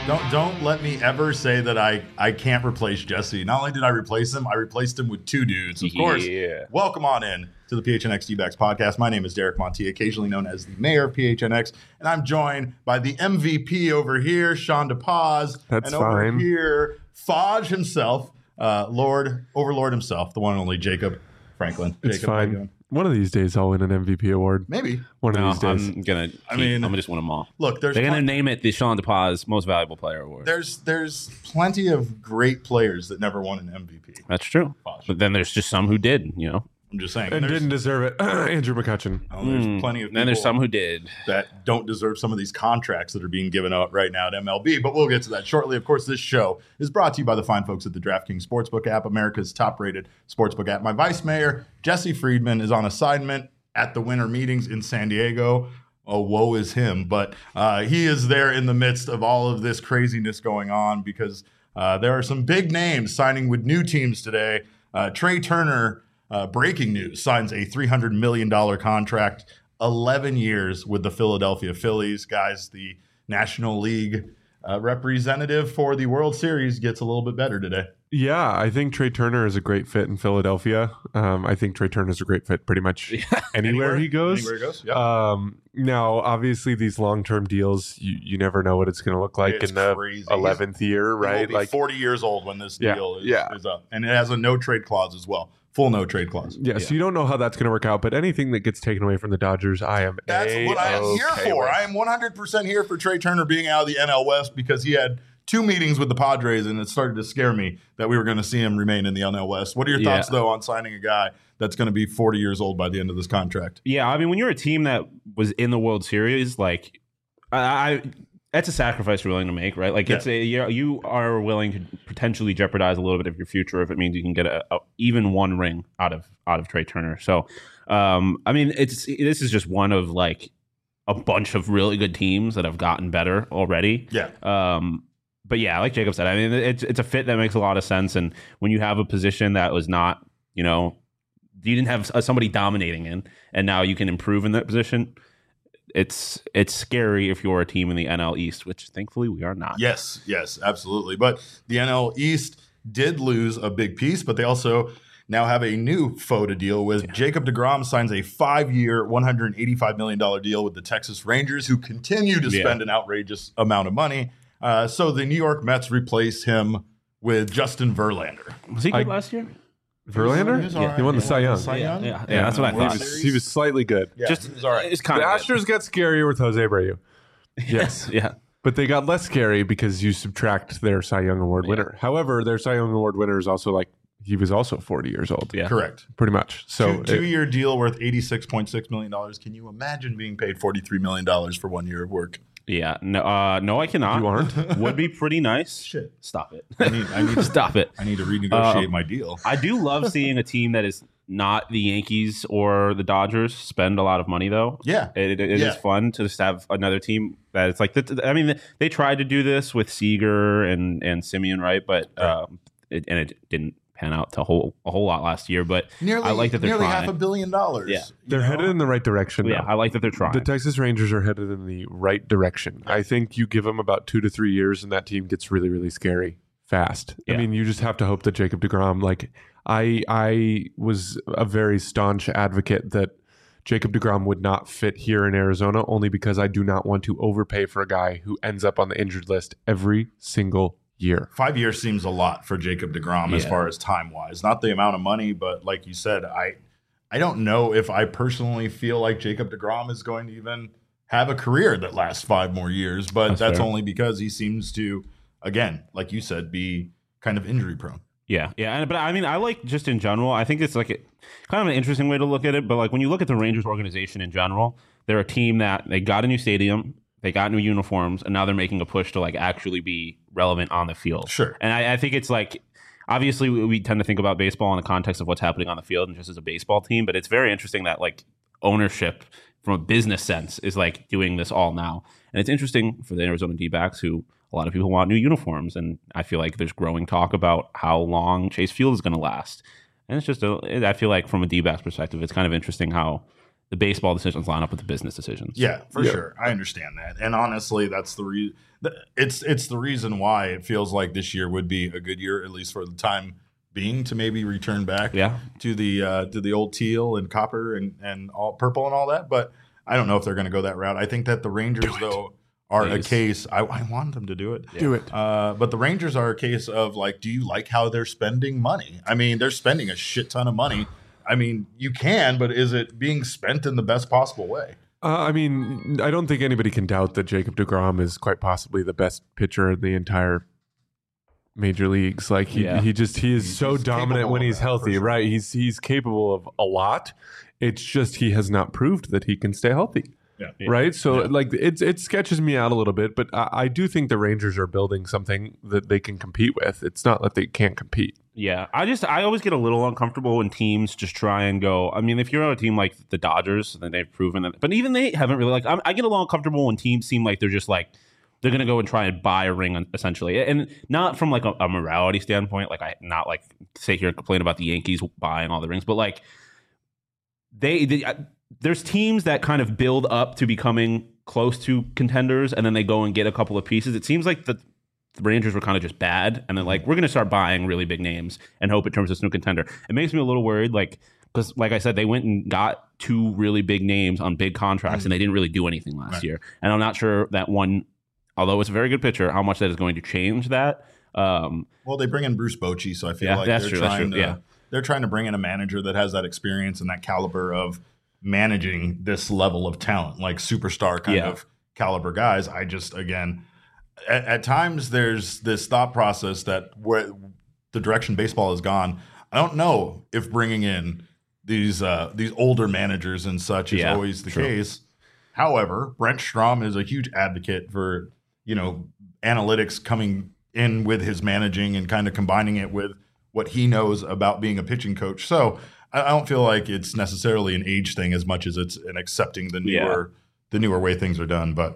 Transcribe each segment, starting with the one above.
Don't let me ever say that I can't replace Jesse. Not only did I replace him, I replaced him with two dudes. Of course. Welcome on in to the PHNX D-backs podcast. My name is Derek Monti, occasionally known as the mayor of PHNX, and I'm joined by the MVP over here, Sean DePaz. That's and over here, Fodge himself, Overlord himself, the one and only Jacob Franklin. It's Jacob, fine. One of these days, I'll win an MVP award. Maybe. One of these days. I'm gonna just win them all. Look, they're gonna name it the Sean DePaz Most Valuable Player Award. There's plenty of great players that never won an MVP. That's true. But then there's just some who did, I'm just saying. And didn't deserve it. Andrew McCutcheon. There's plenty of people. Then there's some who did. That don't deserve some of these contracts that are being given out right now at MLB, but we'll get to that shortly. Of course, this show is brought to you by the fine folks at the DraftKings Sportsbook app, America's top-rated sportsbook app. My vice mayor, Jesse Friedman, is on assignment at the winter meetings in San Diego. Oh, woe is him. But he is there in the midst of all of this craziness going on because there are some big names signing with new teams today. Trey Turner, breaking news, signs a $300 million contract, 11 years with the Philadelphia Phillies. Guys, the National League representative for the World Series gets a little bit better today. Yeah, I think Trey Turner is a great fit in Philadelphia. I think Trey Turner is a great fit pretty much anywhere he goes. Anywhere he goes, yeah. Now, obviously, these long-term deals, you never know what it's going to look like in the crazy. 11th year, right? He will be 40 years old when this deal is up. And it has a no-trade clause as well. Full no-trade clause. Yeah, so you don't know how that's going to work out, but anything that gets taken away from the Dodgers, That's what I am here for. I am 100% here for Trey Turner being out of the NL West because he had two meetings with the Padres, and it started to scare me that we were going to see him remain in the NL West. What are your thoughts, though, on signing a guy that's going to be 40 years old by the end of this contract? Yeah, I mean, when you're a team that was in the World Series, like, that's a sacrifice you're willing to make, right? Like, you are willing to potentially jeopardize a little bit of your future if it means you can get a even one ring out of Trey Turner. So, I mean, this is just one of like a bunch of really good teams that have gotten better already. Yeah. But yeah, like Jacob said, I mean, it's a fit that makes a lot of sense. And when you have a position that was not, you didn't have somebody dominating in, and now you can improve in that position, it's scary if you're a team in the NL East, which thankfully we are not. Yes, absolutely. But the NL East did lose a big piece, but they also now have a new foe to deal with. Yeah. Jacob deGrom signs a 5-year, $185 million deal with the Texas Rangers, who continue to spend an outrageous amount of money. So the New York Mets replace him with Justin Verlander. Was he good last year? Verlander? He won the Cy Young. Yeah, that's what I thought. He was slightly good. Yeah, he was all right. The Astros got scarier with Jose Abreu. Yes. Yeah. But they got less scary because you subtract their Cy Young Award winner. However, their Cy Young Award winner is also he was also 40 years old. Yeah. Correct. Pretty much. So two-year deal worth $86.6 million. Can you imagine being paid $43 million for 1 year of work? Yeah, no, I cannot. You aren't? Would be pretty nice. Shit, stop it. I need to stop it. I need to renegotiate my deal. I do love seeing a team that is not the Yankees or the Dodgers spend a lot of money, though. Yeah, it is fun to just have another team that it's like. I mean, they tried to do this with Seager and Simeon, right? But it didn't pan out to a whole lot last year, but I like that they're nearly trying. $500 million. Yeah, they're headed in the right direction. Yeah, I like that they're trying. The Texas Rangers are headed in the right direction. I think you give them about 2 to 3 years, and that team gets really, really scary fast. Yeah. I mean, you just have to hope that Jacob deGrom. Like, I was a very staunch advocate that Jacob deGrom would not fit here in Arizona, only because I do not want to overpay for a guy who ends up on the injured list every single year. 5 years seems a lot for Jacob deGrom as far as time-wise. Not the amount of money, but like you said, I don't know if I personally feel like Jacob deGrom is going to even have a career that lasts 5 more years, but that's only because he seems to, again, like you said, be kind of injury-prone. Yeah. But I mean, I like just in general, I think it's like kind of an interesting way to look at it, but like when you look at the Rangers organization in general, they're a team that they got a new stadium, they got new uniforms, and now they're making a push to like actually be relevant on the field. Sure. And I think it's like, obviously we tend to think about baseball in the context of what's happening on the field and just as a baseball team, but it's very interesting that like ownership from a business sense is like doing this all now. And it's interesting for the Arizona D-backs, who a lot of people want new uniforms. And I feel like there's growing talk about how long Chase Field is going to last. And it's just, I feel like from a D-backs perspective, it's kind of interesting how the baseball decisions line up with the business decisions. Yeah, for sure. I understand that. And honestly, that's the it's the reason why it feels like this year would be a good year, at least for the time being, to maybe return back to the old teal and copper and all purple and all that. But I don't know if they're going to go that route. I think that the Rangers, though, are a case. I want them to do it. Do it. But the Rangers are a case of, like, do you like how they're spending money? I mean, they're spending a shit ton of money. I mean, you can, but is it being spent in the best possible way? I mean, I don't think anybody can doubt that Jacob deGrom is quite possibly the best pitcher in the entire major leagues. Like he is so dominant when he's healthy, sure. Right? He's capable of a lot. It's just he has not proved that he can stay healthy. Yeah. Right. So like it sketches me out a little bit, but I do think the Rangers are building something that they can compete with. It's not that they can't compete. Yeah. I always get a little uncomfortable when teams just try and go. I mean, if you're on a team like the Dodgers, then they've proven that. But even they haven't really I get a little uncomfortable when teams seem like they're just like they're going to go and try and buy a ring essentially. And not from like a morality standpoint. Like not like sit here and complain about the Yankees buying all the rings, but like there's teams that kind of build up to becoming close to contenders, and then they go and get a couple of pieces. It seems like the Rangers were kind of just bad, and then like we're going to start buying really big names and hope it turns into a contender. It makes me a little worried, like because like I said, they went and got 2 really big names on big contracts, and they didn't really do anything last year. And I'm not sure that one, although it's a very good pitcher, how much that is going to change that. Well, they bring in Bruce Bochy, so I feel like they're trying to bring in a manager that has that experience and that caliber of managing this level of talent, like superstar kind of caliber guys. I just, again, at times there's this thought process that where the direction baseball has gone, I don't know if bringing in these older managers and such is always the case. However, Brent Strom is a huge advocate for, analytics coming in with his managing and kind of combining it with what he knows about being a pitching coach. So I don't feel like it's necessarily an age thing as much as it's an accepting the newer way things are done. But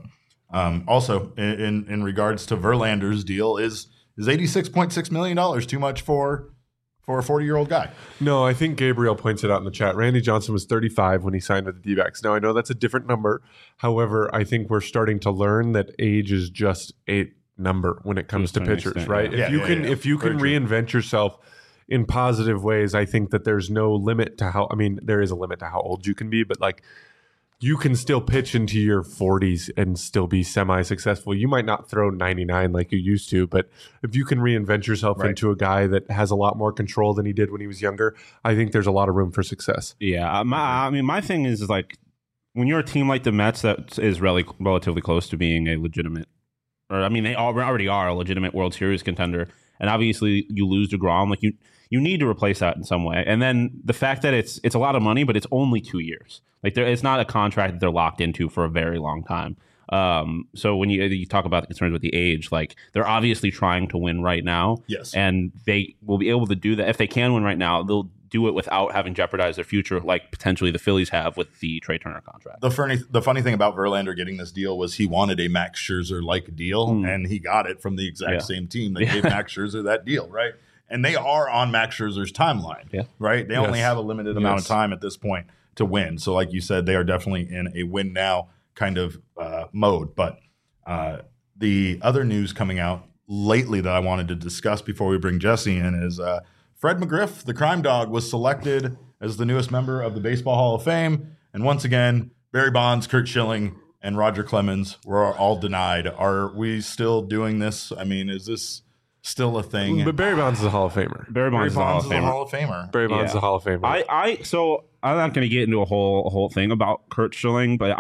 also in regards to Verlander's deal, is $86.6 million too much for a 40-year-old guy? No, I think Gabriel points it out in the chat. Randy Johnson was 35 when he signed with the D-backs. Now, I know that's a different number. However, I think we're starting to learn that age is just a number when it comes to pitchers, right? If you can reinvent yourself in positive ways, I think that there's no limit to how, there is a limit to how old you can be, but like you can still pitch into your 40s and still be semi-successful. You might not throw 99 like you used to, but if you can reinvent yourself into a guy that has a lot more control than he did when he was younger, I think there's a lot of room for success. Yeah. My thing is like when you're a team like the Mets that is relatively close to being a legitimate, they already are a legitimate World Series contender. And obviously you lose DeGrom, like you need to replace that in some way. And then the fact that it's a lot of money, but it's only 2 years. Like it's not a contract that they're locked into for a very long time. So when you talk about the concerns with the age, like they're obviously trying to win right now. Yes. And they will be able to do that. If they can win right now, they'll do it without having jeopardized their future, like potentially the Phillies have with the Trey Turner contract. The funny thing about Verlander getting this deal was he wanted a Max Scherzer-like deal, and he got it from the exact same team that gave Max Scherzer that deal, right? And they are on Max Scherzer's timeline, right? They only have a limited amount of time at this point to win. So like you said, they are definitely in a win now kind of mode. But the other news coming out lately that I wanted to discuss before we bring Jesse in is Fred McGriff, the crime dog, was selected as the newest member of the Baseball Hall of Fame. And once again, Barry Bonds, Curt Schilling, and Roger Clemens were all denied. Are we still doing this? Is this still a thing? But Barry Bonds is a Hall of Famer. Barry Bonds is a Hall of Famer. Barry Bonds is a Hall of Famer. So I'm not going to get into a whole thing about Curt Schilling, but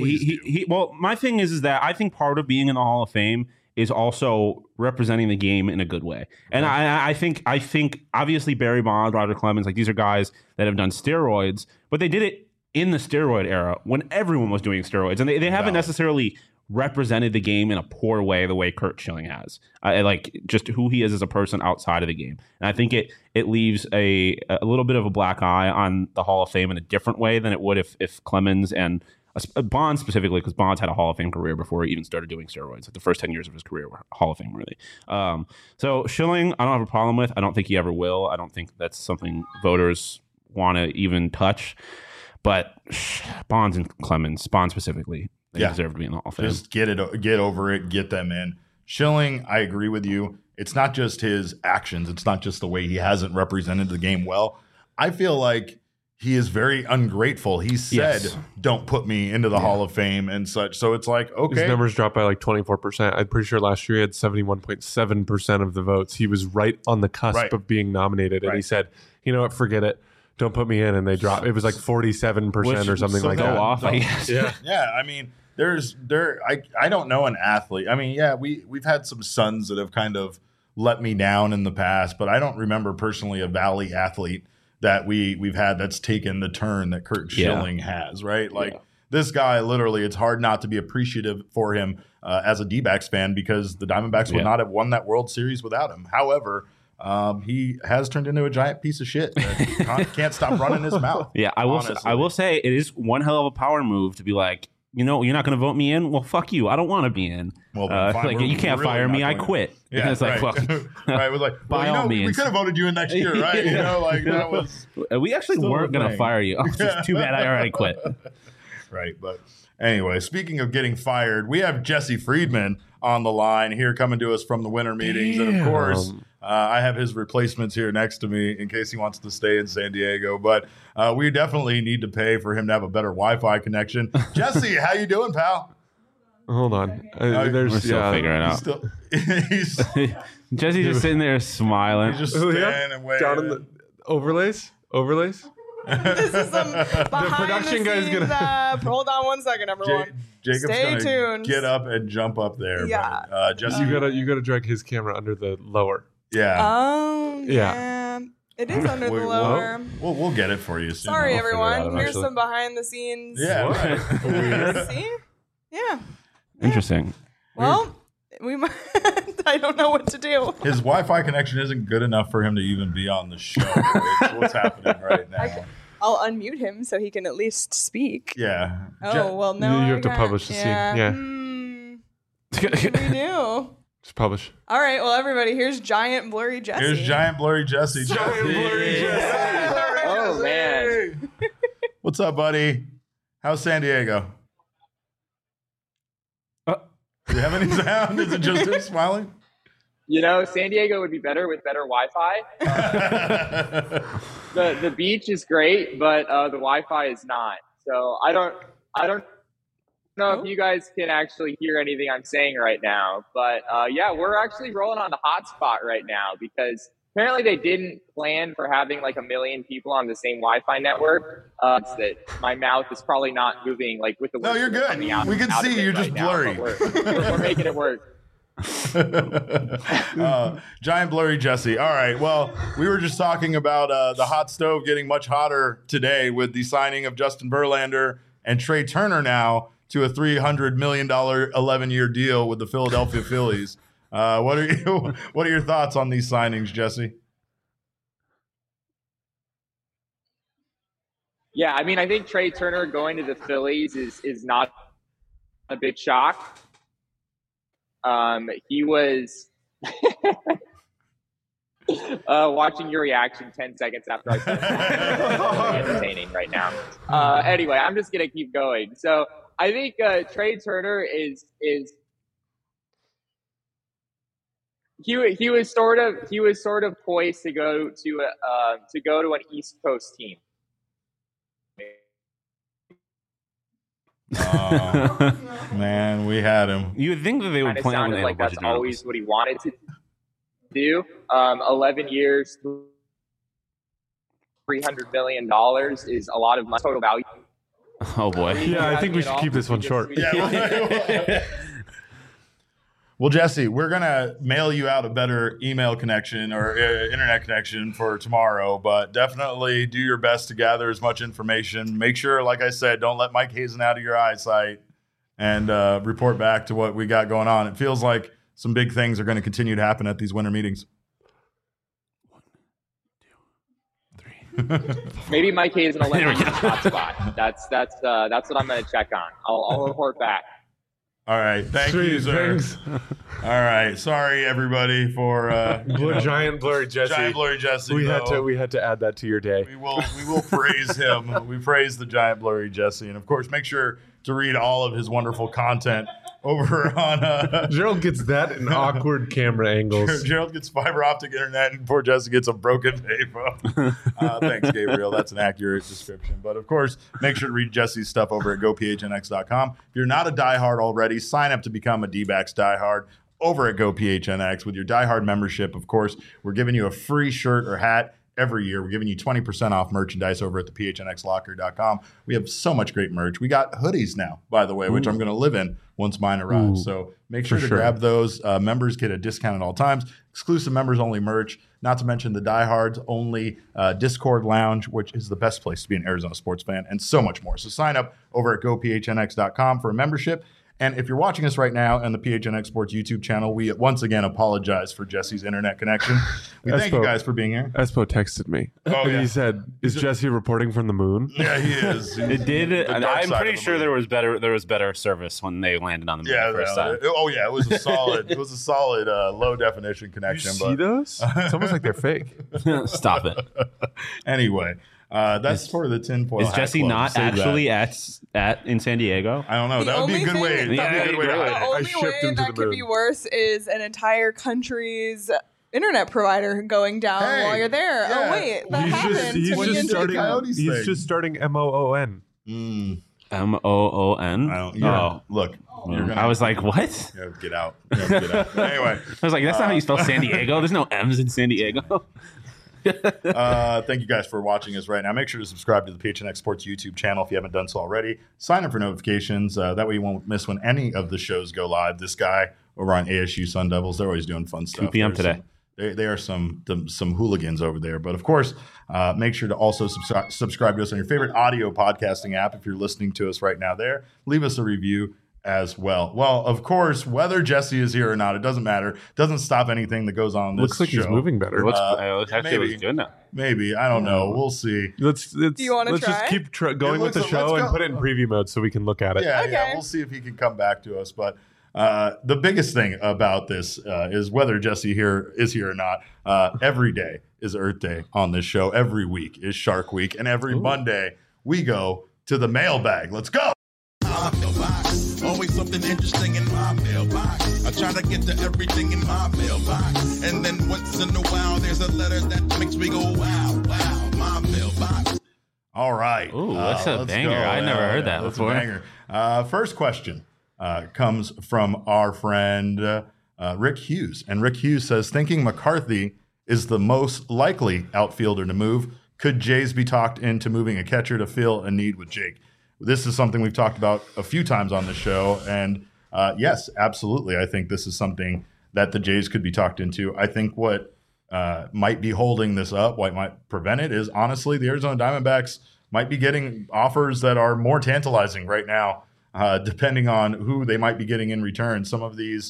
my thing is that I think part of being in the Hall of Fame is also representing the game in a good way. And I think obviously Barry Bonds, Roger Clemens, like these are guys that have done steroids, but they did it in the steroid era when everyone was doing steroids. And they haven't necessarily represented the game in a poor way the way Curt Schilling has. Like just who he is as a person outside of the game. And I think it leaves a little bit of a black eye on the Hall of Fame in a different way than it would if Clemens and Bonds specifically, because Bonds had a Hall of Fame career before he even started doing steroids. Like the first 10 years of his career were Hall of Fame worthy. So Schilling, I don't have a problem with. I don't think he ever will. I don't think that's something voters want to even touch. But Bonds and Clemens, Bonds specifically, they deserve to be in the Hall of Fame. Just get over it, get them in. Schilling, I agree with you. It's not just his actions. It's not just the way he hasn't represented the game well. I feel like he is very ungrateful. He said, don't put me into the Hall of Fame and such. So it's like, okay. His numbers dropped by like 24%. I'm pretty sure last year he had 71.7% of the votes. He was right on the cusp of being nominated. And he said, you know what, forget it. Don't put me in. And they dropped. It was like 47% or something like that. Off, I guess. Yeah, I mean, I don't know an athlete. I mean, we've had some sons that have kind of let me down in the past, but I don't remember personally a Valley athlete that we've had that's taken the turn that Curt Schilling has, right? Like this guy, literally, it's hard not to be appreciative for him as a D-backs fan because the Diamondbacks would not have won that World Series without him. However, he has turned into a giant piece of shit that can't stop running his mouth. Yeah, I will say it is one hell of a power move to be like, you know, you're not going to vote me in? Well, fuck you. I don't want to be in. Well, like, you can't fire me. I quit. Yeah, it's like, fuck. Right. It was like, by all means. We could have voted you in next year, right? You know, like that was. We actually weren't going to fire you. It's just too bad I already quit. Right. But anyway, speaking of getting fired, we have Jesse Friedman on the line here coming to us from the winter meetings. And of course, I have his replacements here next to me in case he wants to stay in San Diego. But we definitely need to pay for him to have a better Wi-Fi connection. Jesse, how you doing, pal? Hold on. We're still figuring it out. Jesse's just sitting there smiling. He's just standing and waiting. Down in the overlays? This is some behind the guy's scenes, hold on one second, everyone. Jacob's Stay gonna tuned. get up and jump up there. Yeah. But, Jesse, you gotta drag his camera under the lower. Yeah. Yeah. It is under the lower. We'll get it for you soon. Sorry, I'll figure it everyone. out Here's eventually. some behind the scenes. Yeah. Right. See? Yeah. Interesting. Well, we might. I don't know what to do. His Wi-Fi connection isn't good enough for him to even be on the show. It's what's happening right now. I'll unmute him so he can at least speak. Yeah. Oh, well, no. You have to publish the scene. Yeah. What do we do? Just publish. All right. Well, everybody, here's Giant Blurry Jesse. Here's Giant Blurry Jesse. Oh, man. What's up, buddy? How's San Diego? Do you have any sound? Is it just him smiling? You know, San Diego would be better with better Wi-Fi. The beach is great, but the Wi-Fi is not. So I don't know if you guys can actually hear anything I'm saying right now. But yeah, we're actually rolling on the hotspot right now because apparently they didn't plan for having like 1 million people on the same Wi-Fi network. It's that my mouth is probably not moving like with the. No, you're good. We can see you're just blurry. We're making it work. Giant Blurry Jesse. All right. Well, we were just talking about the hot stove getting much hotter today with the signing of Justin Verlander and Trey Turner now to a $300 million 11-year deal with the Philadelphia Phillies. What are your thoughts on these signings, Jesse? Yeah, I mean, I think Trey Turner going to the Phillies is not a big shock. He was watching your reaction 10 seconds after I said it. Entertaining right now. Anyway, I'm just gonna keep going. So I think Trey Turner is he was sort of poised to go to an East Coast team. Man, we had him. You would think that they would plan when they like have a bunch that's of always what he wanted to do. 11 years, $300 million is a lot of money, total value. Oh boy. Yeah, I think we should keep this one short. Well, Jesse, we're going to mail you out a better email connection or internet connection for tomorrow, but definitely do your best to gather as much information. Make sure, like I said, don't let Mike Hazen out of your eyesight and report back to what we got going on. It feels like some big things are going to continue to happen at these winter meetings. 1, 2, 3. Maybe Mike Hazen will let me in the hot spot. That's what I'm going to check on. I'll report back. All right. Thank you, sir. Thanks. All right. Sorry, everybody, for Giant blurry Jesse. Giant blurry Jesse. We had to add that to your day. We will praise him. We praise the giant blurry Jesse, and of course, make sure to read all of his wonderful content over on. Gerald gets that in awkward camera angles. Gerald gets fiber optic internet, and poor Jesse gets a broken payphone. Thanks, Gabriel. That's an accurate description. But of course, make sure to read Jesse's stuff over at gophnx.com. If you're not a diehard already, sign up to become a D-backs diehard over at GoPHNX. With your diehard membership, of course, we're giving you a free shirt or hat every year. We're giving you 20% off merchandise over at the phnxlocker.com. We have so much great merch. We got hoodies now, by the way, which I'm going to live in once mine arrives. So make sure to grab those. Members get a discount at all times. Exclusive members only merch, not to mention the diehards only Discord lounge, which is the best place to be an Arizona sports fan, and so much more. So sign up over at gophnx.com for a membership. And if you're watching us right now on the PHNX Sports YouTube channel, we once again apologize for Jesse's internet connection. We thank you guys for being here. Espo texted me. Oh, yeah. He said, "Is Jesse reporting from the moon?" Yeah, he is. It did. I'm pretty sure there there was better service when they landed on the moon the first time. It was a solid. It was a solid low definition You connection. see those? It's almost like they're fake. Stop it. Anyway, that's for the tinfoil. Is hat Jesse club. not Save actually that. at in San Diego? I don't know. The That would be a only good way. thing- That'd be a good way to Yeah, hide The it. only shipped way him to that the could be moon. worse is an entire country's internet provider going down Hey, while you're there. yeah. Oh wait, that happened. He's when you just do the starting. Coyotes thing. He's just starting MOON. Mm, MOON. I don't. Yeah. Look, you're gonna. I was like, what? You have to get out. You have to get out. Anyway, I was like, that's not how you spell San Diego. There's no M's in San Diego. thank you guys for watching us right now. Make sure to subscribe to the PHNX Sports YouTube channel if you haven't done so already. Sign up for notifications. That way you won't miss when any of the shows go live. This guy over on ASU Sun Devils, they're always doing fun stuff. 2 p.m. There's today. They are some hooligans over there. But of course, make sure to also subscribe to us on your favorite audio podcasting app if you're listening to us right now there. Leave us a review as well. Well, of course, whether Jesse is here or not, it doesn't matter. It doesn't stop anything that goes on in this Looks like show. he's moving better. It looks actually maybe. looks good now. Maybe. I don't know. We'll see. Let's you wanna just try? keep going with the Let's show go. and put it in preview mode so we can look at it. Yeah, Okay. we'll see if he can come back to us. But the biggest thing about this is whether Jesse is here or not. Every day is Earth Day on this show. Every week is Shark Week. And every Monday, we go to the mailbag. Let's go. My mailbox. Always something interesting in my mailbox. I try to get to everything in my mailbox. And then once in a while, there's a letter that makes me go, wow, wow, my mailbox. All right. Ooh, that's a let's banger. go. I never heard that that's before. A banger. First question comes from our friend Rick Hughes. And Rick Hughes says, thinking McCarthy is the most likely outfielder to move, could Jays be talked into moving a catcher to fill a need with Jake? This is something we've talked about a few times on the show. And yes, absolutely. I think this is something that the Jays could be talked into. I think what might be holding this up, what might prevent it, is honestly the Arizona Diamondbacks might be getting offers that are more tantalizing right now, depending on who they might be getting in return. Some of these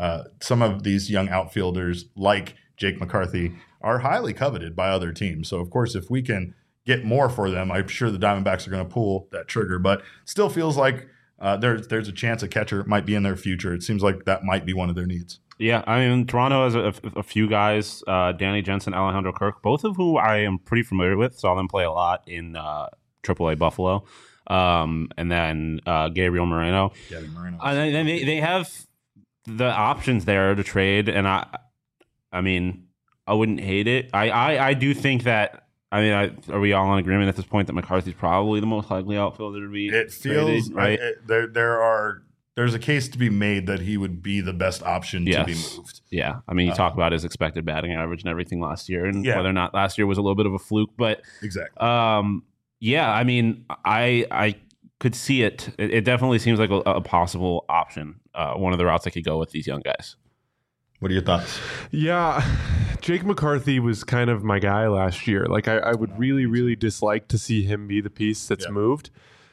young outfielders, like Jake McCarthy, are highly coveted by other teams. So, of course, if we can get more for them, I'm sure the Diamondbacks are going to pull that trigger. But still feels like there's a chance a catcher might be in their future. It seems like that might be one of their needs. Yeah, I mean, Toronto has a few guys, Danny Jensen, Alejandro Kirk, both of who I am pretty familiar with. Saw them play a lot in AAA Buffalo. And then Gabriel Moreno. Gabby Moreno. And then they have the options there to trade. And I mean, I wouldn't hate it. I do think that, I mean, are we all in agreement at this point that McCarthy's probably the most likely outfielder to be It feels traded, right? There's a case to be made that he would be the best option to be moved. Yeah. I mean, you talk about his expected batting average and everything last year, and Yeah. whether or not last year was a little bit of a fluke. But Exactly. yeah, I mean, I could see it. It definitely seems like a possible option. One of the routes I could go with these young guys. What are your thoughts? Yeah, Jake McCarthy was kind of my guy last year. Like I would really, really dislike to see him be the piece that's moved.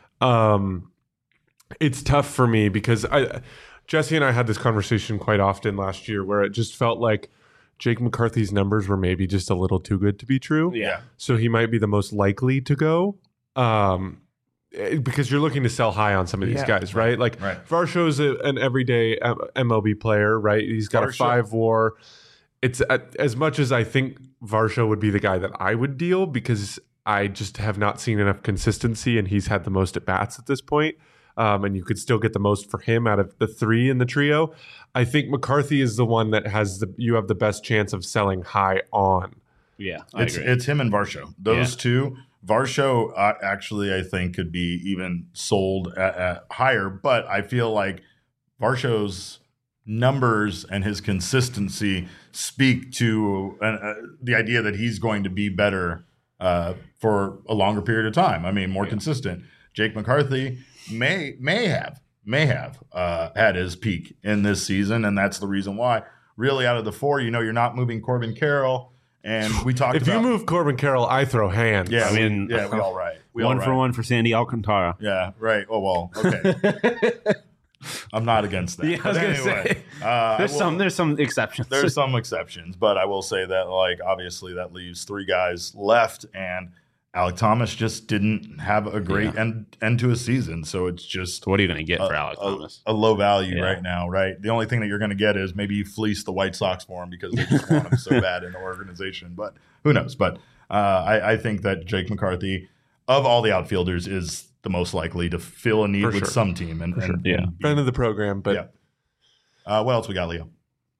It's tough for me because Jesse and I had this conversation quite often last year where it just felt like Jake McCarthy's numbers were maybe just a little too good to be true. Yeah. So he might be the most likely to go. because you're looking to sell high on some of these guys, right? Like Right. Varsho's an everyday MLB player, right? He's got a Varsho. 5 WAR. It's as much as I think Varsho would be the guy that I would deal, because I just have not seen enough consistency, and he's had the most at bats at this point. And you could still get the most for him out of the 3 in the trio. I think McCarthy is the one that you have the best chance of selling high on. Yeah, I agree. It's him and Varsho. Those two. Varsho actually, I think, could be even sold at higher, but I feel like Varsho's numbers and his consistency speak to the idea that he's going to be better for a longer period of time. I mean, more consistent. Jake McCarthy may have had his peak in this season, and that's the reason why. Really, out of the 4, you're not moving Corbin Carroll, and we talked If about you move Corbin Carroll, I throw hands. Yeah, I mean, we all right. We one all for right. one for Sandy Alcantara. Yeah, right. Oh well, okay. I'm not against that. Yeah, I was But gonna anyway, say there's some exceptions. there's some exceptions, but I will say that, like, obviously that leaves 3 guys left, and Alec Thomas just didn't have a great end to his season. So it's just What are you going to get for Alec Thomas? a low value right now, right? The only thing that you're going to get is maybe you fleece the White Sox for him because they just want him so bad in the organization. But who knows? But I think that Jake McCarthy, of all the outfielders, is the most likely to fill a need For with sure. some team. And Yeah. Friend of the program, but what else we got, Leo?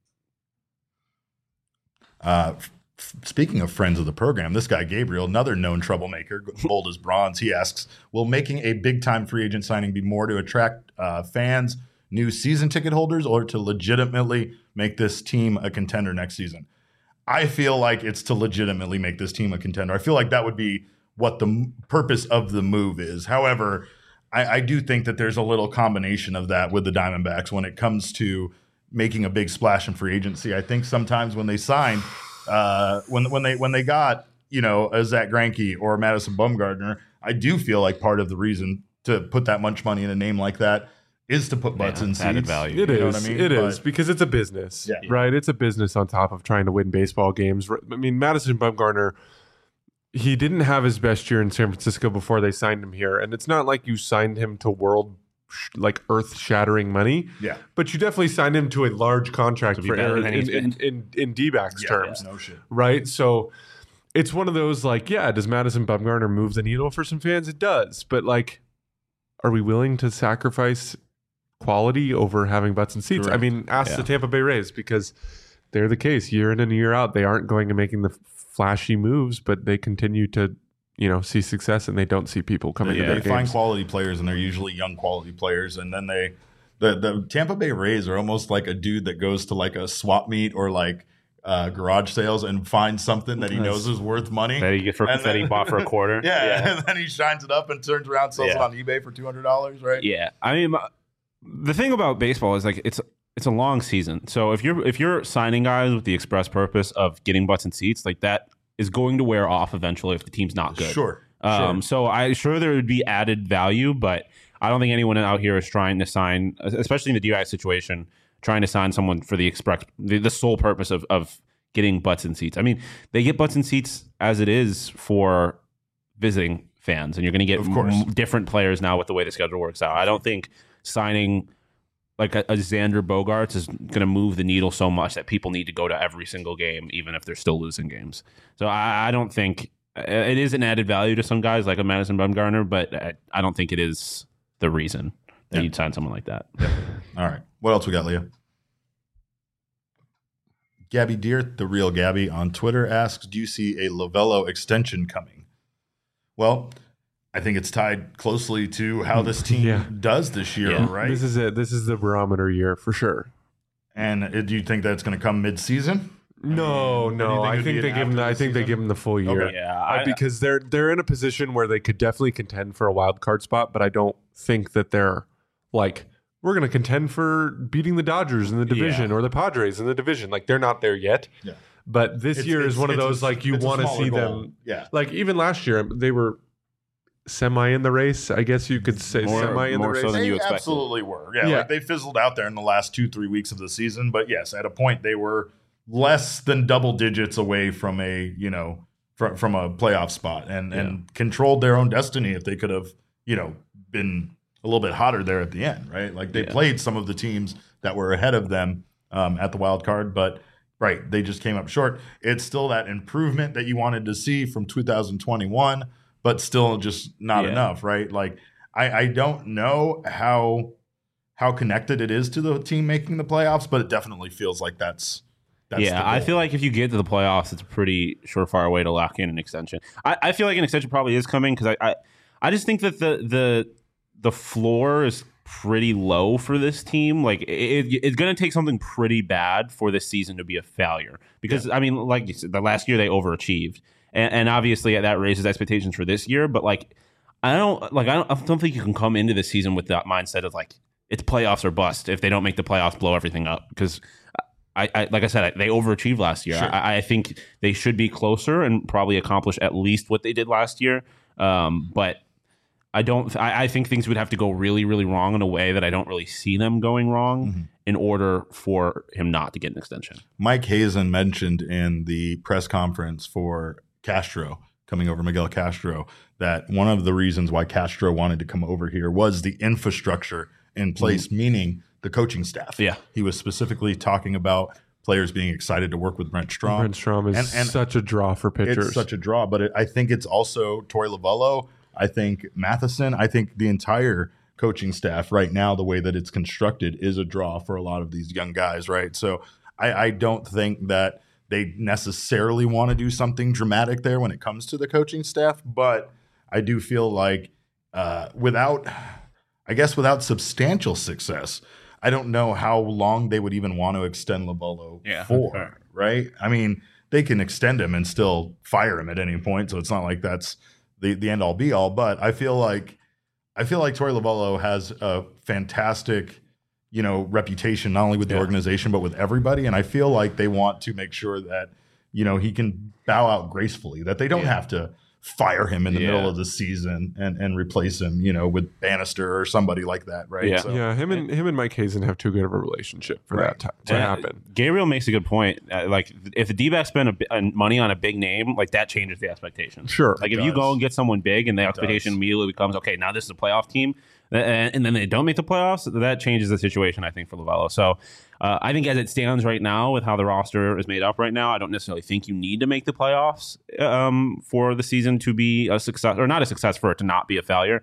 Speaking of friends of the program, this guy Gabriel, another known troublemaker, bold as bronze, he asks, will making a big-time free agent signing be more to attract fans, new season ticket holders, or to legitimately make this team a contender next season? I feel like it's to legitimately make this team a contender. I feel like that would be what the purpose of the move is. However, I do think that there's a little combination of that with the Diamondbacks when it comes to making a big splash in free agency. I think sometimes when they sign, when they got a Zach Greinke or Madison Bumgarner, I do feel like part of the reason to put that much money in a name like that is to put butts in seats. Added value. It You know is. what I mean? It is But- because it's a business, Yeah. right? It's a business on top of trying to win baseball games. I mean, Madison Bumgarner, he didn't have his best year in San Francisco before they signed him here, and it's not like you signed him to earth-shattering money. Yeah. But you definitely signed him to a large contract To be for better than he's in D-backs terms, No shit. right? So it's one of those does Madison Bumgarner move the needle for some fans? It does, but are we willing to sacrifice quality over having butts and seats? Correct. I mean, ask Yeah. the Tampa Bay Rays, because they're the case year in and year out. They aren't going to making the flashy moves, but they continue to see success, and they don't see people coming to They their find games. quality players, and they're usually young quality players. And then the Tampa Bay Rays are almost like a dude that goes to like a swap meet or garage sales and finds something that he knows is worth money. That he bought for a quarter. Yeah, and then he shines it up and turns around, sells it on eBay for $200, right? Yeah, I mean, the thing about baseball is it's a long season. So if you're signing guys with the express purpose of getting butts and seats, that is going to wear off eventually if the team's not good. Sure. So I'm sure there would be added value, but I don't think anyone out here is trying to sign, especially in the DI situation, trying to sign someone for the sole purpose of getting butts and seats. I mean, they get butts and seats as it is for visiting fans, and you're going to get different players now with the way the schedule works out. I don't think signing like a Xander Bogaerts is going to move the needle so much that people need to go to every single game, even if they're still losing games. So I don't think it is an added value to some guys like a Madison Bumgarner, but I don't think it is the reason that you'd sign someone like that. All right. What else we got, Leah? Gabby Deer, the real Gabby, on Twitter asks, do you see a Lovello extension coming? Well, I think it's tied closely to how this team does this year, right? This is it. This is the barometer year for sure. And do you think that's going to come mid-season? No. I it'd think be they an give him. after I the think they season? give him the full year. Okay. Yeah, because they're in a position where they could definitely contend for a wild card spot, but I don't think that they're we're going to contend for beating the Dodgers in the division or the Padres in the division. They're not there yet. Yeah. But this year is one of those you it's a want to smaller see goal. them. Yeah. Even last year they were semi in the race. I guess you could say semi in the more race. so than you They expected. absolutely were. Yeah, Yeah. they fizzled out there in the last 2-3 weeks of the season. But yes, at a point they were less than double digits away from a from a playoff spot and controlled their own destiny if they could have been a little bit hotter there at the end, right? Like they played some of the teams that were ahead of them at the wild card, but they just came up short. It's still that improvement that you wanted to see from 2021, but still just not enough, right? Like I don't know how connected it is to the team making the playoffs, but it definitely feels like that's I feel like if you get to the playoffs, it's a pretty surefire way to lock in an extension. I feel like an extension probably is coming because I just think that the floor is pretty low for this team. Like it's going to take something pretty bad for this season to be a failure because I mean, like you said, the last year they overachieved, and obviously that raises expectations for this year. But like I don't think you can come into this season with that mindset of like it's playoffs or bust. If they don't make the playoffs, blow everything up because. Like I said, they overachieved last year. Sure. I think they should be closer and probably accomplish at least what they did last year. But I don't. I think things would have to go really, really wrong in a way that I don't really see them going wrong in order for him not to get an extension. Mike Hazen mentioned in the press conference for Castro, coming over Miguel Castro, that one of the reasons why Castro wanted to come over here was the infrastructure in place, meaning the coaching staff. Yeah. He was specifically talking about players being excited to work with Brent Strom. Brent Strom is such a draw for pitchers. It's such a draw, but I think it's also Torey Lovullo. I think Matheson. I think the entire coaching staff right now, the way that it's constructed, is a draw for a lot of these young guys, right? So I don't think that they necessarily want to do something dramatic there when it comes to the coaching staff, but I do feel like without substantial success, I don't know how long they would even want to extend Lovullo for, right? I mean, they can extend him and still fire him at any point, so it's not like that's the end all be all. But I feel like Torey Lovullo has a fantastic, reputation not only with the organization but with everybody, and I feel like they want to make sure that he can bow out gracefully, that they don't have to fire him in the middle of the season and replace him, with Bannister or somebody like that, right? Yeah, so, him and Mike Hazen have too good of a relationship for that to happen. Gabriel makes a good point. Like if the D-backs spend money on a big name, like that changes the expectation. Sure. Like if you go and get someone big and the expectation immediately becomes, okay, now this is a playoff team, and then they don't make the playoffs, that changes the situation, I think, for Lovullo. So I think as it stands right now with how the roster is made up right now, I don't necessarily think you need to make the playoffs for the season to be a success, or not a success, for it to not be a failure.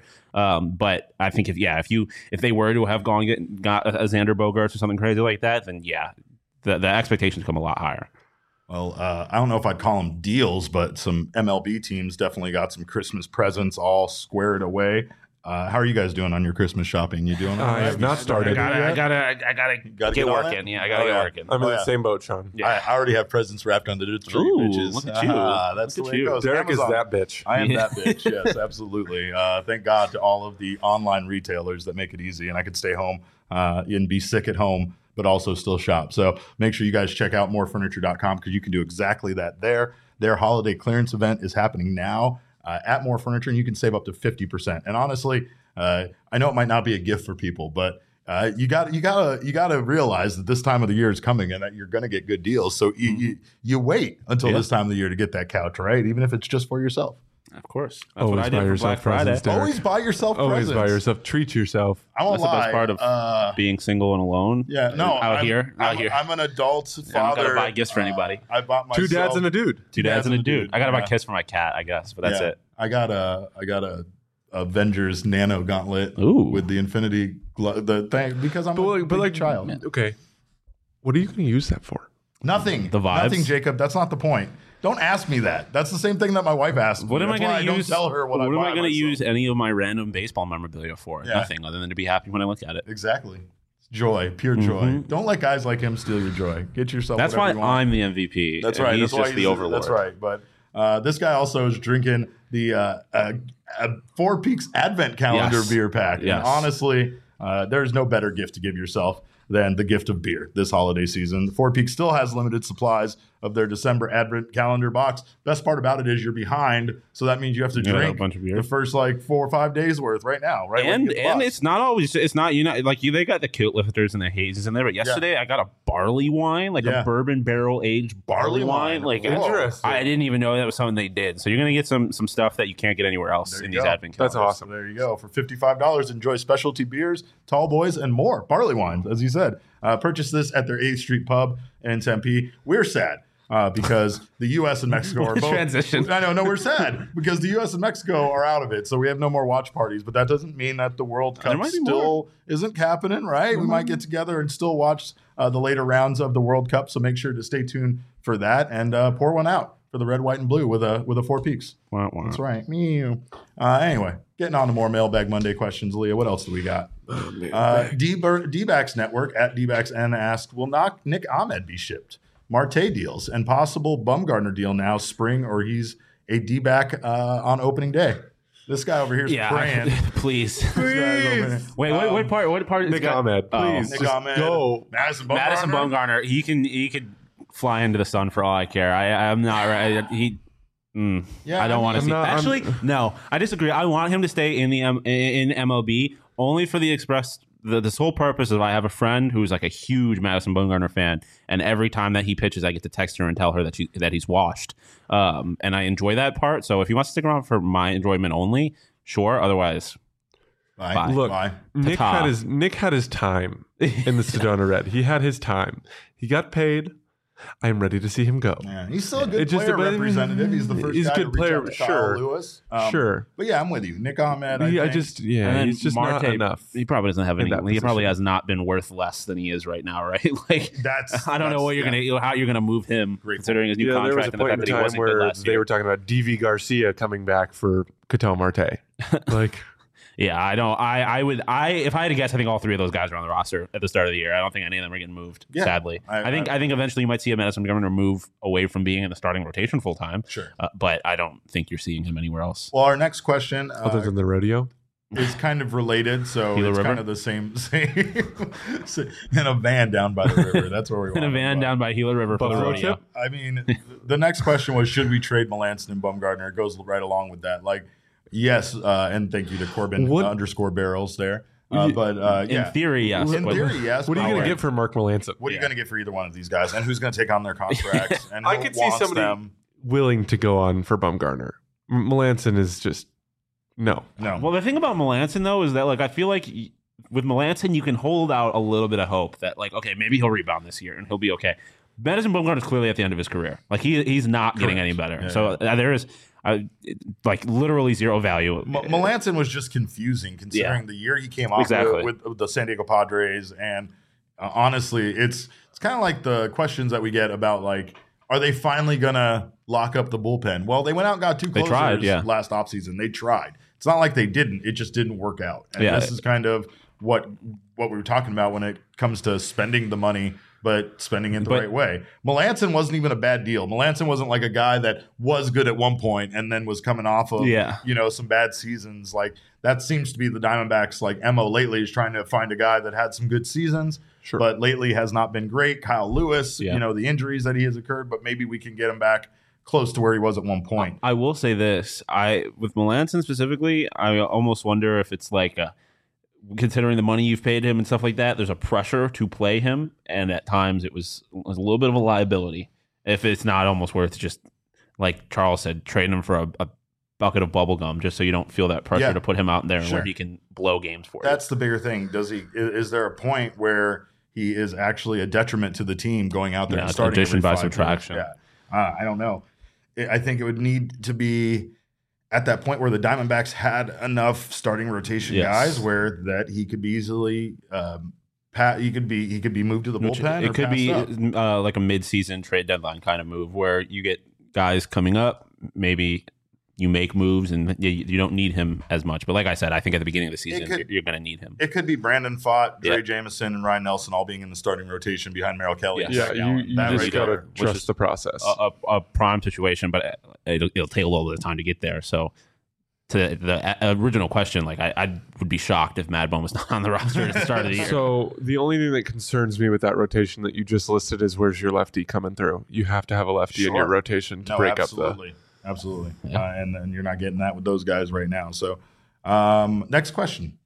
But I think if they were to have got a Xander Bogaerts or something crazy like that, then the expectations come a lot higher. Well, I don't know if I'd call them deals, but some MLB teams definitely got some Christmas presents all squared away. How are you guys doing on your Christmas shopping? You doing? I have not started. I gotta get working. Yeah, I gotta get working. I'm in the same boat, Sean. Yeah. I already have presents wrapped under the tree, bitches. Look at you. That's the way it goes. Derek Amazon. is that bitch. I am that bitch. Yes, absolutely. Thank God to all of the online retailers that make it easy, and I could stay home and be sick at home, but also still shop. So make sure you guys check out morefurniture.com because you can do exactly that there. Their holiday clearance event is happening now at More Furniture, and you can save up to 50%. And honestly, I know it might not be a gift for people, but you gotta realize that this time of the year is coming and that you're gonna get good deals. So you wait until this time of the year to get that couch, right? Even if it's just for yourself. Of course. That's Always what I buy did for yourself Black Friday. presents, Derek. Always buy yourself Always presents. buy yourself. Treat yourself. I won't That's the lie. best part of being single and alone. Yeah, no, Out here. I'm an adult father. I'm not gonna buy gifts for anybody. I bought myself Two dads and a dude. Two dads and a dude. I gotta buy Yeah. Kiss for my cat, I guess, but that's it. I got a Avengers Nano Gauntlet Ooh. with the Infinity the thing because I'm a big child. Okay, what are you going to use that for? Nothing. The vibes? Nothing, Jacob. That's not the point. Don't ask me that. That's the same thing that my wife asked me. What am I That's why going to use? Don't tell her what am I going going to to use any of my random baseball memorabilia for? Yeah. Nothing other than to be happy when I look at it. Exactly. Joy, pure joy. Don't let guys like him steal your joy. Get yourself. That's why whatever you want. I'm the MVP. That's and right. He's That's why just the overlord. That's right. But this guy also is drinking the Four Peaks Advent Calendar Yes. beer pack. Yes. And honestly, there's no better gift to give yourself than the gift of beer this holiday season. Four Peaks still has limited supplies of their December Advent calendar box. Best part about it is you're behind, so that means you have to drink a bunch of beer. the first like 4 or 5 days worth right now, right? And it's not always, it's not, like they got the kilt lifters and the hazes in there, but yesterday I got a barley wine, like a bourbon barrel aged barley wine. Like, Interesting. I didn't even know that was something they did. So you're going to get some stuff that you can't get anywhere else in these Advent calendars. That's awesome. There you go. For $55, enjoy specialty beers, tall boys, and more. Barley wines, as you said. Purchase this at their 8th Street Pub in Tempe. We're sad because the U.S. and Mexico are both. Transition. I know. No, we're sad because the U.S. and Mexico are out of it. So we have no more watch parties. But that doesn't mean that the World Cup still isn't happening, right? Mm-hmm. We might get together and still watch the later rounds of the World Cup. So make sure to stay tuned for that and pour one out for the red, white, and blue with a Four Peaks. Wow. That's right. Meow. Anyway, getting on to more Mailbag Monday questions. Leah, what else do we got? D-Backs Network at D-Backs-N asked, will Nick Ahmed be shipped? Marte deals and possible Bumgarner deal now, spring, or he's a D-Back on opening day. This guy over here is praying. Please. Wait, what part is Nick Ahmed, please. Nick Ahmed. Go. Madison Bumgarner. He could fly into the sun for all I care. I'm not right. I don't want to see. Actually, no, I disagree. I want him to stay in the in MLB only for the express. The sole purpose of I have a friend who's like a huge Madison Bumgarner fan, and every time that he pitches, I get to text her and tell her that he's washed. And I enjoy that part. So if he wants to stick around for my enjoyment only, sure. Otherwise, bye. Look, Bye. Nick had his time in the Sedona Red. He had his time. He got paid. I'm ready to see him go. Yeah, he's still a good player representative. He's the first guy to reach out to Kyle Lewis. Sure. But yeah, I'm with you. Nick Ahmed, he's just Marte, not enough. He probably doesn't have anything. He probably has not been worth less than he is right now, right? Like I don't know what how you're gonna move him considering his new contract and the fact that he wasn't good last year. They were talking about DV Garcia coming back for Ketel Marte. Like yeah, I don't. If I had to guess, I think all three of those guys are on the roster at the start of the year. I don't think any of them are getting moved. Yeah, sadly, I think eventually you might see a Madison Bumgarner move away from being in the starting rotation full time. Sure, but I don't think you're seeing him anywhere else. Well, our next question, other than the rodeo, is kind of related. So it's kind of the same in a van down by the river. That's where we want. In a van down by Gila River for the rodeo. I mean, the next question was, should we trade Melanson and Bumgarner? It goes right along with that. Like. Yes, and thank you to Corbin _barrels there. In theory, yes. In theory, yes. What are you going to get for Mark Melanson? What are you going to get for either one of these guys? And who's going to take on their contracts? And I could see somebody willing to go on for Bumgarner. Melanson is just no. Well, the thing about Melanson though is that like I feel like with Melanson you can hold out a little bit of hope that like okay maybe he'll rebound this year and he'll be okay. Madison Bumgarner is clearly at the end of his career. Like he's not getting any better. Yeah, so there is. Like literally zero value. Melanson was just confusing considering the year he came off with the San Diego Padres, and honestly, it's kind of like the questions that we get about like, are they finally gonna lock up the bullpen? Well, they went out and got two closers last offseason. They tried. It's not like they didn't. It just didn't work out. And this is kind of what we were talking about when it comes to spending the money. But spending it the right way. Melanson wasn't even a bad deal. Melanson wasn't like a guy that was good at one point and then was coming off of some bad seasons. Like that seems to be the Diamondbacks like MO lately is trying to find a guy that had some good seasons, but lately has not been great. Kyle Lewis, the injuries that he has occurred, but maybe we can get him back close to where he was at one point. I will say this: with Melanson specifically, I almost wonder if it's like considering the money you've paid him and stuff like that, there's a pressure to play him, and at times it was a little bit of a liability. If it's not almost worth just, like Charles said, trading him for a bucket of bubble gum, just so you don't feel that pressure to put him out there where he can blow games for you. That's the bigger thing. Is there a point where he is actually a detriment to the team going out there and starting addition by subtraction? Yeah, I don't know. I think it would need to be at that point where the Diamondbacks had enough starting rotation guys where that he could be easily he could be moved to the bullpen. It could be like a mid-season trade deadline kind of move where you get guys coming up, maybe you make moves and you don't need him as much. But like I said, I think at the beginning of the season you're going to need him. It could be Brandon Pfaadt, Trey Jameson, and Ryan Nelson all being in the starting rotation behind Merrill Kelly. Yeah, you just got to trust the process. A prime situation, but it'll take a little bit of time to get there. So to the original question, like I would be shocked if Mad Bum was not on the roster at the start of the year. So the only thing that concerns me with that rotation that you just listed is where's your lefty coming through? You have to have a lefty in your rotation to break up the. Absolutely. And you're not getting that with those guys right now. So next question.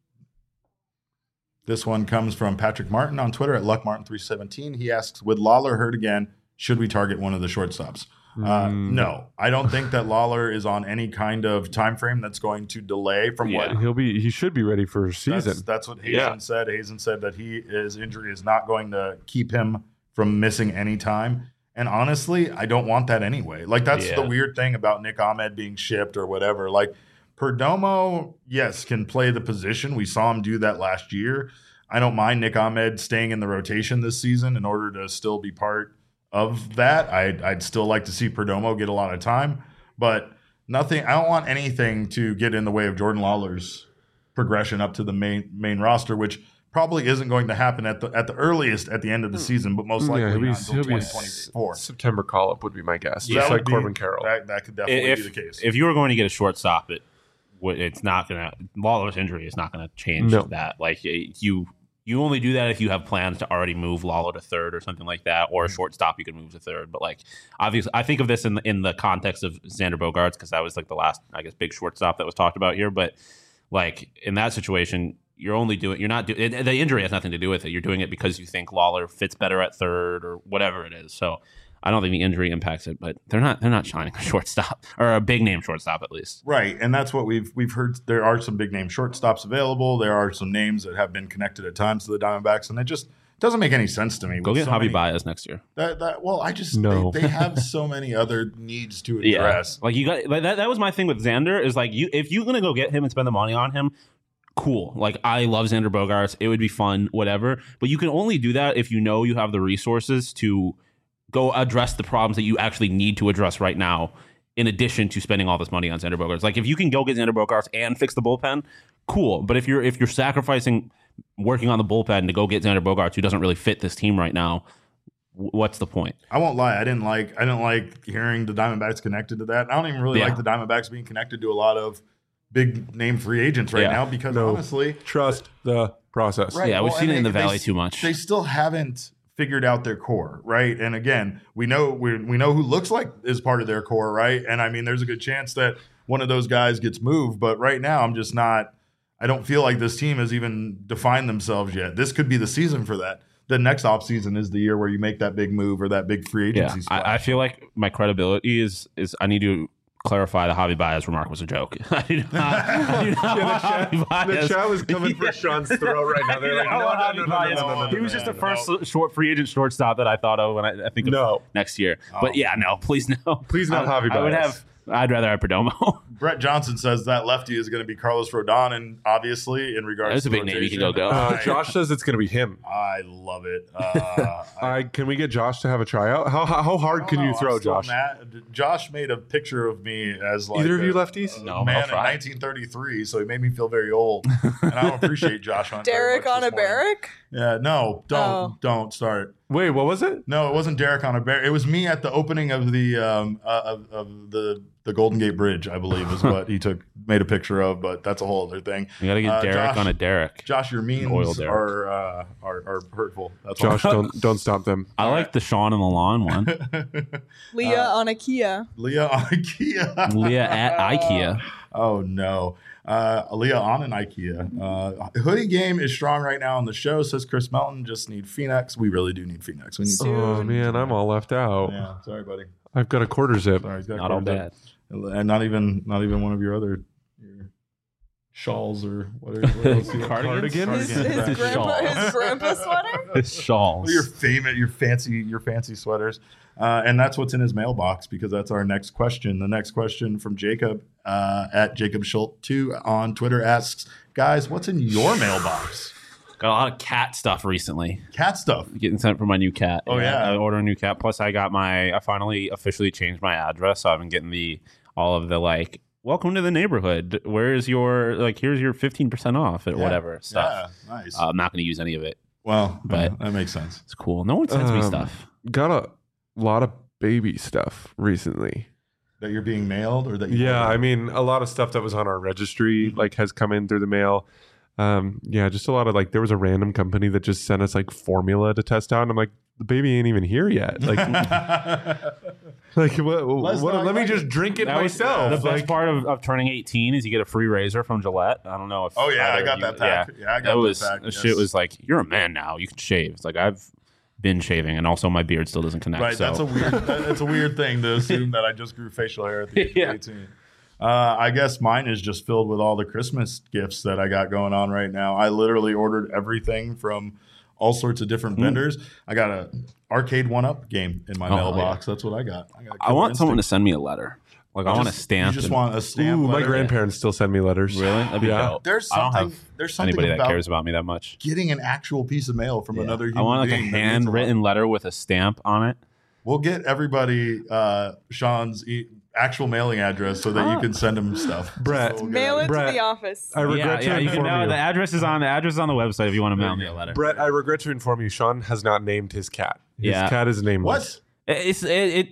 This one comes from Patrick Martin on Twitter at LuckMartin317. He asks, with Lawler hurt again, should we target one of the shortstops? No, I don't think that Lawler is on any kind of time frame that's going to delay from what he should be ready for a season. That's what Hazen said. Hazen said that his injury is not going to keep him from missing any time. And honestly, I don't want that anyway. Like, that's the weird thing about Nick Ahmed being shipped or whatever. Like, Perdomo, yes, can play the position. We saw him do that last year. I don't mind Nick Ahmed staying in the rotation this season in order to still be part of that. I'd still like to see Perdomo get a lot of time, but nothing. I don't want anything to get in the way of Jordan Lawler's progression up to the main roster, which probably isn't going to happen at the earliest at the end of the season, but most likely not until 2024. September call-up would be my guess, just like Corbin Carroll. That could definitely be the case. If you were going to get a shortstop, it's not going to – Lawler's injury is not going to change that. Like, you only do that if you have plans to already move Lawler to third or something like that, or a shortstop you can move to third. But, like, obviously, I think of this in the context of Xander Bogaerts, because that was like the last, I guess, big shortstop that was talked about here. But, like, in that situation, the injury has nothing to do with it. You're doing it because you think Lawler fits better at third or whatever it is. So I don't think the injury impacts it, but they're not shining a shortstop, or a big name shortstop at least. Right, and that's what we've heard. There are some big name shortstops available. There are some names that have been connected at times to the Diamondbacks, and it just doesn't make any sense to me. Go get Javi Baez next year. They have so many other needs to address. Like, you got that was my thing with Xander, is like, if you're gonna go get him and spend the money on him, cool. Like, I love Xander Bogaerts. It would be fun, whatever. But you can only do that if you know you have the resources to go address the problems that you actually need to address right now, in addition to spending all this money on Xander Bogaerts. Like, if you can go get Xander Bogaerts and fix the bullpen, cool. But if you're sacrificing working on the bullpen to go get Xander Bogaerts, who doesn't really fit this team right now, what's the point? I won't lie. I didn't like hearing the Diamondbacks connected to that. I don't even really like the Diamondbacks being connected to a lot of big name free agents right now, because honestly, trust the process. Right. Yeah, we've seen it in the Valley too much. They still haven't figured out their core, right? And again, we know who looks like is part of their core, right? And I mean, there's a good chance that one of those guys gets moved, but right now I'm just not. I don't feel like this team has even defined themselves yet. This could be the season for that. The next offseason is the year where you make that big move or that big free agency. Yeah, I feel like my credibility is I need to clarify the Javi Baez remark was a joke. I do not the chat was coming for Sean's throat right now. They're like, no. He was just the first free agent shortstop that I thought of when I think of next year. But please no. Please not Javi Baez. I'd rather have Perdomo. Brett Johnson says that lefty is going to be Carlos Rodon, and obviously, in regards that's to a big name, he can go. Josh says it's going to be him. I love it. Can we get Josh to have a tryout? How hard can you throw, Josh? Josh made a picture of me as like either of you lefties? No, man in 1933, so he made me feel very old, and I don't appreciate Josh Hunter. Derek on a Barrack? Yeah, no, don't start. Wait, what was it? No, it wasn't Derek on a Bear. It was me at the opening of the Golden Gate Bridge, I believe, is what he made a picture of. But that's a whole other thing. You got to get Derek on a Derek. Josh, your memes are hurtful. That's Josh, don't stop them. I like the Sean on the lawn one. Leah on a Kia. Leah on a Kia. Leah at IKEA. Oh no. Leah on an IKEA. Hoodie game is strong right now on the show, says Chris Melton. Just need Phoenix. We really do need Phoenix. We need. Oh man, I'm all left out. Yeah, sorry, buddy. I've got a quarter zip. Sorry, not all bad. And not even one of your other shawls or whatever. Cardigan? His grandpa sweater? His shawls. Your fancy sweaters. And that's what's in his mailbox, because that's our next question. The next question from Jacob at Jacob Schultz 2 on Twitter asks, guys, what's in your mailbox? Got a lot of cat stuff recently. Cat stuff? Getting sent for my new cat. Oh, yeah. I ordered a new cat. Plus, I finally officially changed my address. So I've been getting all of the, like, welcome to the neighborhood. Where's your, like, here's your 15% off at whatever stuff. Yeah, nice. I'm not going to use any of it. Well, but that makes sense. It's cool. No one sends me stuff. Got a lot of baby stuff recently. that you're being mailed or that you Yeah, ordered? I mean, a lot of stuff that was on our registry like has come in through the mail. Yeah, just a lot of like there was a random company that just sent us like formula to test out, and I'm like, the baby ain't even here yet. Like, let me just drink it That was myself. the best part of turning 18 is you get a free razor from Gillette. I don't know if Oh, yeah, I either got of that you- pack. Yeah, I got that was, that pack, the yes. shit was like, you're a man now. You can shave. It's like I've been shaving, and also my beard still doesn't connect. Right, so. that's a weird thing to assume that I just grew facial hair at the age Yeah. of 18. I guess mine is just filled with all the Christmas gifts that I got going on right now. I literally ordered everything from all sorts of different vendors. I got a arcade 1-Up game in my Oh, mailbox. That's what I got. I want someone to send me a letter. Like I want a stamp. You just and- want a stamp. Ooh, my letter? grandparents still send me letters. Really? That'd be Yeah. dope. There's I don't something. have There's something anybody about that cares about me that much. getting an actual piece of mail from another human I want like a being that means lot. handwritten letter with a stamp on it. We'll get everybody Sean's actual mailing address so that you can send him stuff. Brett, So we'll get Mail out it of Brett, to the office. I regret yeah, to you can inform know you. the address is on the website if you want to mail me a letter. Brett, I regret to inform you, Sean has not named his cat. His Yeah. cat is nameless. What? It's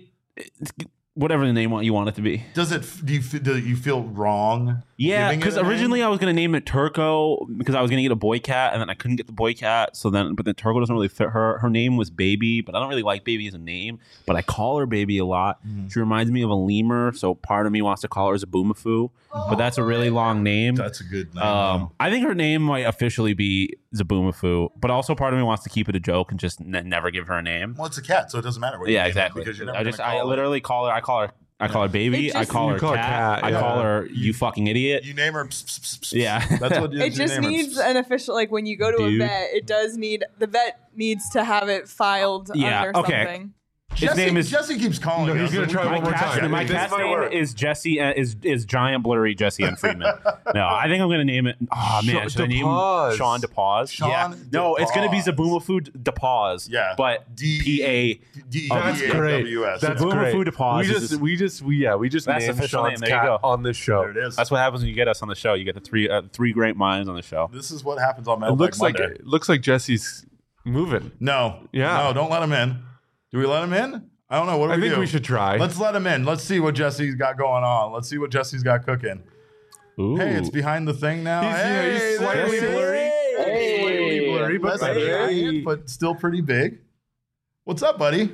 whatever the name you want it to be. Does it? Do you feel wrong? Yeah, giving it because a name? originally I was gonna name it Turco because I was gonna get a boy cat, and then I couldn't get the boy cat. But then Turco doesn't really fit her. Her name was Baby, but I don't really like Baby as a name. But I call her Baby a lot. She reminds me of a lemur, so part of me wants to call her Zaboomafoo. But that's a really long name. That's a good name. I think her name might officially be Zaboomafoo, but also part of me wants to keep it a joke and just never give her a name. Well, it's a cat, so it doesn't matter what. you Yeah, name it, exactly. Because you're never I gonna call it. literally call her. I call her Baby. It I just- call You her call her cat. cat, I yeah. call her you fucking idiot. You name her. Pss, pss, pss, pss. Yeah. That's what It just name her. needs an official, like when you go to Dude. a vet, it does need, the vet needs to have it filed Yeah, under okay. something. His name is Jesse keeps calling. No, he's us, gonna and try we- one more time. My This cat's might name work. is Jesse. Is giant blurry Jesse and Friedman. No, I think I'm gonna name it. Oh man, should I name him DePause. Sean DePause? Sean Yeah. No, it's gonna be DePause. Zaboomafoo DePause. Yeah. But D- That's great. D-E-A-W-S. That's Zaboomafoo great. DePause is- We just That's the named official name. Sean's There you cat go. on this show. There it is. That's what happens when you get us on the show. You get the three great minds on the show. This is what happens on It Mailbag Monday. looks like Jesse's moving. No. Yeah. No, don't let him in. Do we let him in? I don't know. What do I we think do? we should try. Let's let him in. Let's see what Jesse's got going on. Let's see what Jesse's got cooking. Ooh. Hey, it's behind the thing now. He's Hey, slightly there he blurry. is. Slightly blurry, but Less better. giant, but still pretty big. What's up, buddy?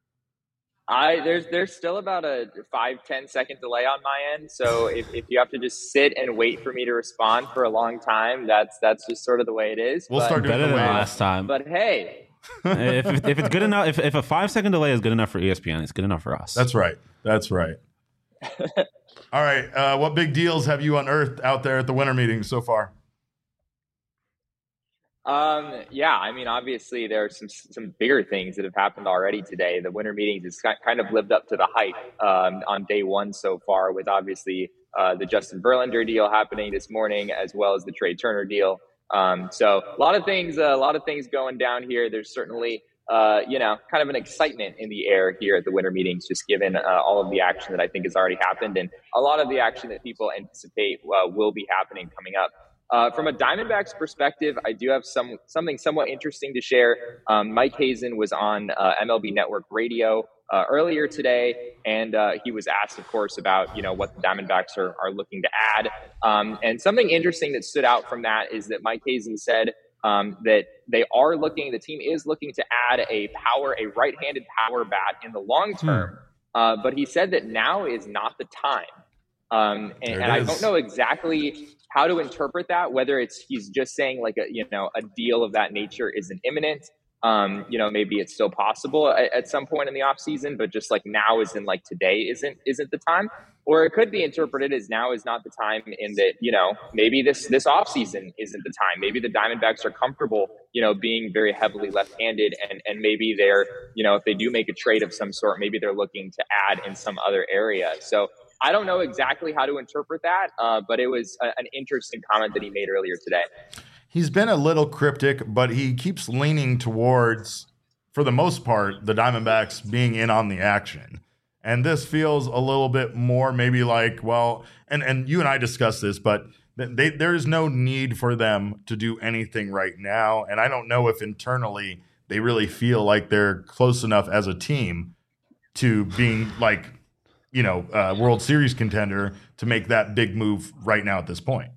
There's still about a 5-10 second delay on my end. So if you have to just sit and wait for me to respond for a long time, that's just sort of the way it is. We'll But- start doing Better the than wave. last time. But hey, if it's good enough, if a 5-second delay is good enough for ESPN, it's good enough for us. That's right. That's right. All right. What big deals have you unearthed out there at the winter meetings so far? yeah, I mean, obviously there are some bigger things that have happened already today. The winter meetings has kind of lived up to the hype on day one so far, with obviously the Justin Verlander deal happening this morning, as well as the Trey Turner deal. So a lot of things going down here. There's certainly kind of an excitement in the air here at the winter meetings, just given all of the action that I think has already happened, and a lot of the action that people anticipate will be happening coming up. From a Diamondbacks perspective, I do have something somewhat interesting to share. Mike Hazen was on MLB Network Radio earlier today, and he was asked, of course, about what the Diamondbacks are looking to add. And something interesting that stood out from that is that Mike Hazen said that the team is looking to add a right-handed power bat in the long term, but he said that now is not the time. And I don't know exactly how to interpret that, whether he's just saying like a deal of that nature isn't imminent. Maybe it's still possible at some point in the off season, but just like now is in like today isn't the time, or it could be interpreted as now is not the time in that, maybe this off season isn't the time. Maybe the Diamondbacks are comfortable, being very heavily left-handed, and maybe they're, if they do make a trade of some sort, maybe they're looking to add in some other area. So I don't know exactly how to interpret that, but it was an interesting comment that he made earlier today. He's been a little cryptic, but he keeps leaning towards, for the most part, the Diamondbacks being in on the action. And this feels a little bit more maybe like, well, and you and I discussed this, but there is no need for them to do anything right now. And I don't know if internally they really feel like they're close enough as a team to being like World Series contender to make that big move right now at this point.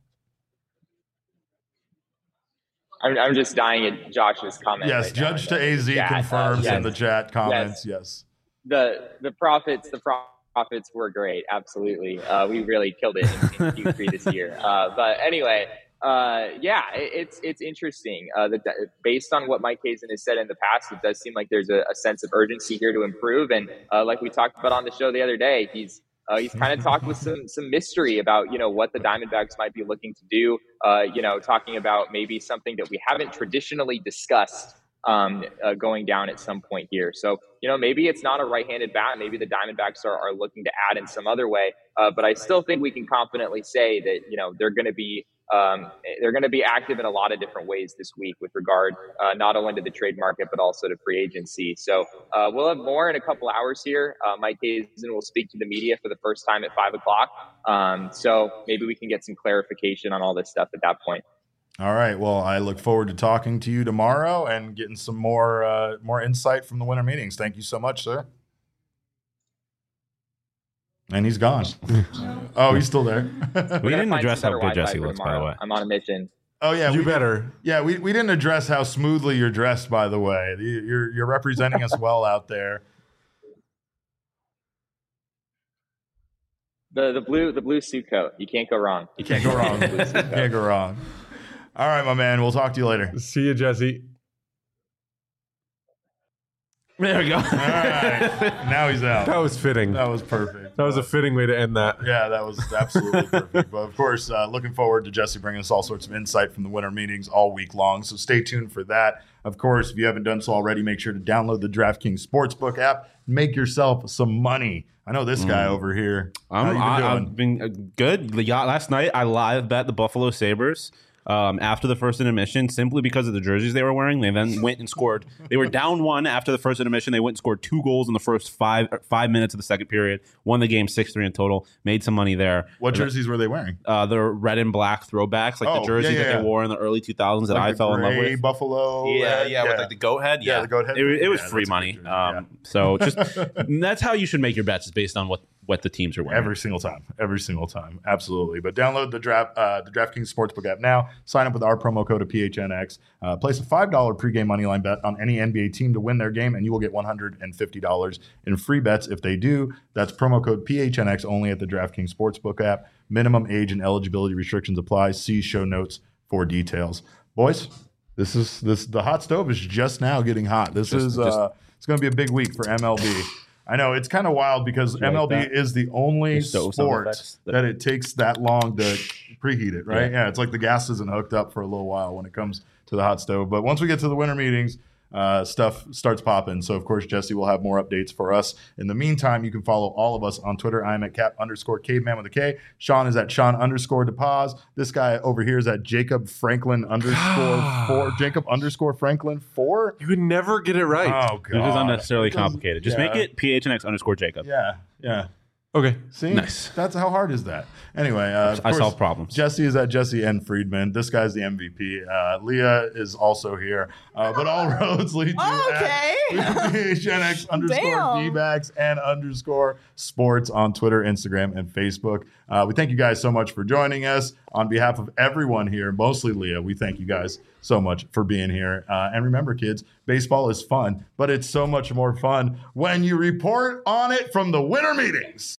I'm just dying at Josh's comment. Yes, right Judge now, to AZ confirms in the chat comments. Yes. The profits were great. Absolutely. We really killed it in Q3 this year. But anyway, it's interesting. Based on what Mike Hazen has said in the past, it does seem like there's a sense of urgency here to improve. And like we talked about on the show the other day, he's kind of talked with some mystery about, what the Diamondbacks might be looking to do, talking about maybe something that we haven't traditionally discussed going down at some point here. So, maybe it's not a right-handed bat. Maybe the Diamondbacks are looking to add in some other way. But I still think we can confidently say that, they're going to be active in a lot of different ways this week with regard not only to the trade market, but also to free agency. So we'll have more in a couple hours here. Mike Hazen will speak to the media for the first time at 5:00. So maybe we can get some clarification on all this stuff at that point. All right. Well, I look forward to talking to you tomorrow and getting some more insight from the winter meetings. Thank you so much, sir. And he's gone. Oh, he's still there. We didn't address how good Jesse looks, by the way. I'm on a mission. Oh, yeah. You better. Yeah, we didn't address how smoothly you're dressed, by the way. You're representing us well out there. The blue suit coat. You can't go wrong. You can't go wrong. Can't go wrong. All right, my man. We'll talk to you later. See you, Jesse. There we go. All right. Now he's out. That was fitting. That was perfect. That was a fitting way to end that. Yeah, that was absolutely perfect. But of course, looking forward to Jesse bringing us all sorts of insight from the winter meetings all week long. So stay tuned for that. Of course, if you haven't done so already, make sure to download the DraftKings Sportsbook app. Make yourself some money. I know this guy over here. I've been good. Last night, I live bet the Buffalo Sabres. After the first intermission, simply because of the jerseys they were wearing. They then went and scored. They were down 1 after the first intermission. They went and scored 2 goals in the first 5 minutes of the second period. Won the game 6-3 in total. Made some money there. What jerseys were they wearing? The red and black throwbacks, like the jerseys that they wore in the early 2000s that I fell in love with. Buffalo. Yeah, with like the goat head. Yeah, the goat head. It was free money. So just that's how you should make your bets, is based on what the teams are wearing. Every single time. Absolutely. But download the DraftKings Sportsbook app now. Sign up with our promo code of PHNX. Place a $5 pregame moneyline bet on any NBA team to win their game, and you will get $150 in free bets if they do. That's promo code PHNX only at the DraftKings Sportsbook app. Minimum age and eligibility restrictions apply. See show notes for details. Boys, the hot stove is just now getting hot. It's going to be a big week for MLB. I know it's kind of wild because MLB is the only sport that it takes that long to preheat it, right? Yeah, it's like the gas isn't hooked up for a little while when it comes to the hot stove. But once we get to the winter meetings, stuff starts popping. So, of course, Jesse will have more updates for us. In the meantime, you can follow all of us on Twitter. I'm at Cap_caveman with a K. Sean is at Sean_DePaz. This guy over here is at Jacob Franklin _4. Jacob _Franklin 4. You would never get it right. Oh, God. This is unnecessarily complicated. Just make it PHNX _Jacob. Yeah. Okay. See? Nice. How hard is that? Anyway, I solve problems. Jesse is at Jesse N. Friedman. This guy's the MVP. Leah is also here. But all roads lead to PHNX _D-backs and _sports on Twitter, Instagram, and Facebook. We thank you guys so much for joining us. On behalf of everyone here, mostly Leah, we thank you guys so much for being here. And remember, kids, baseball is fun, but it's so much more fun when you report on it from the winter meetings.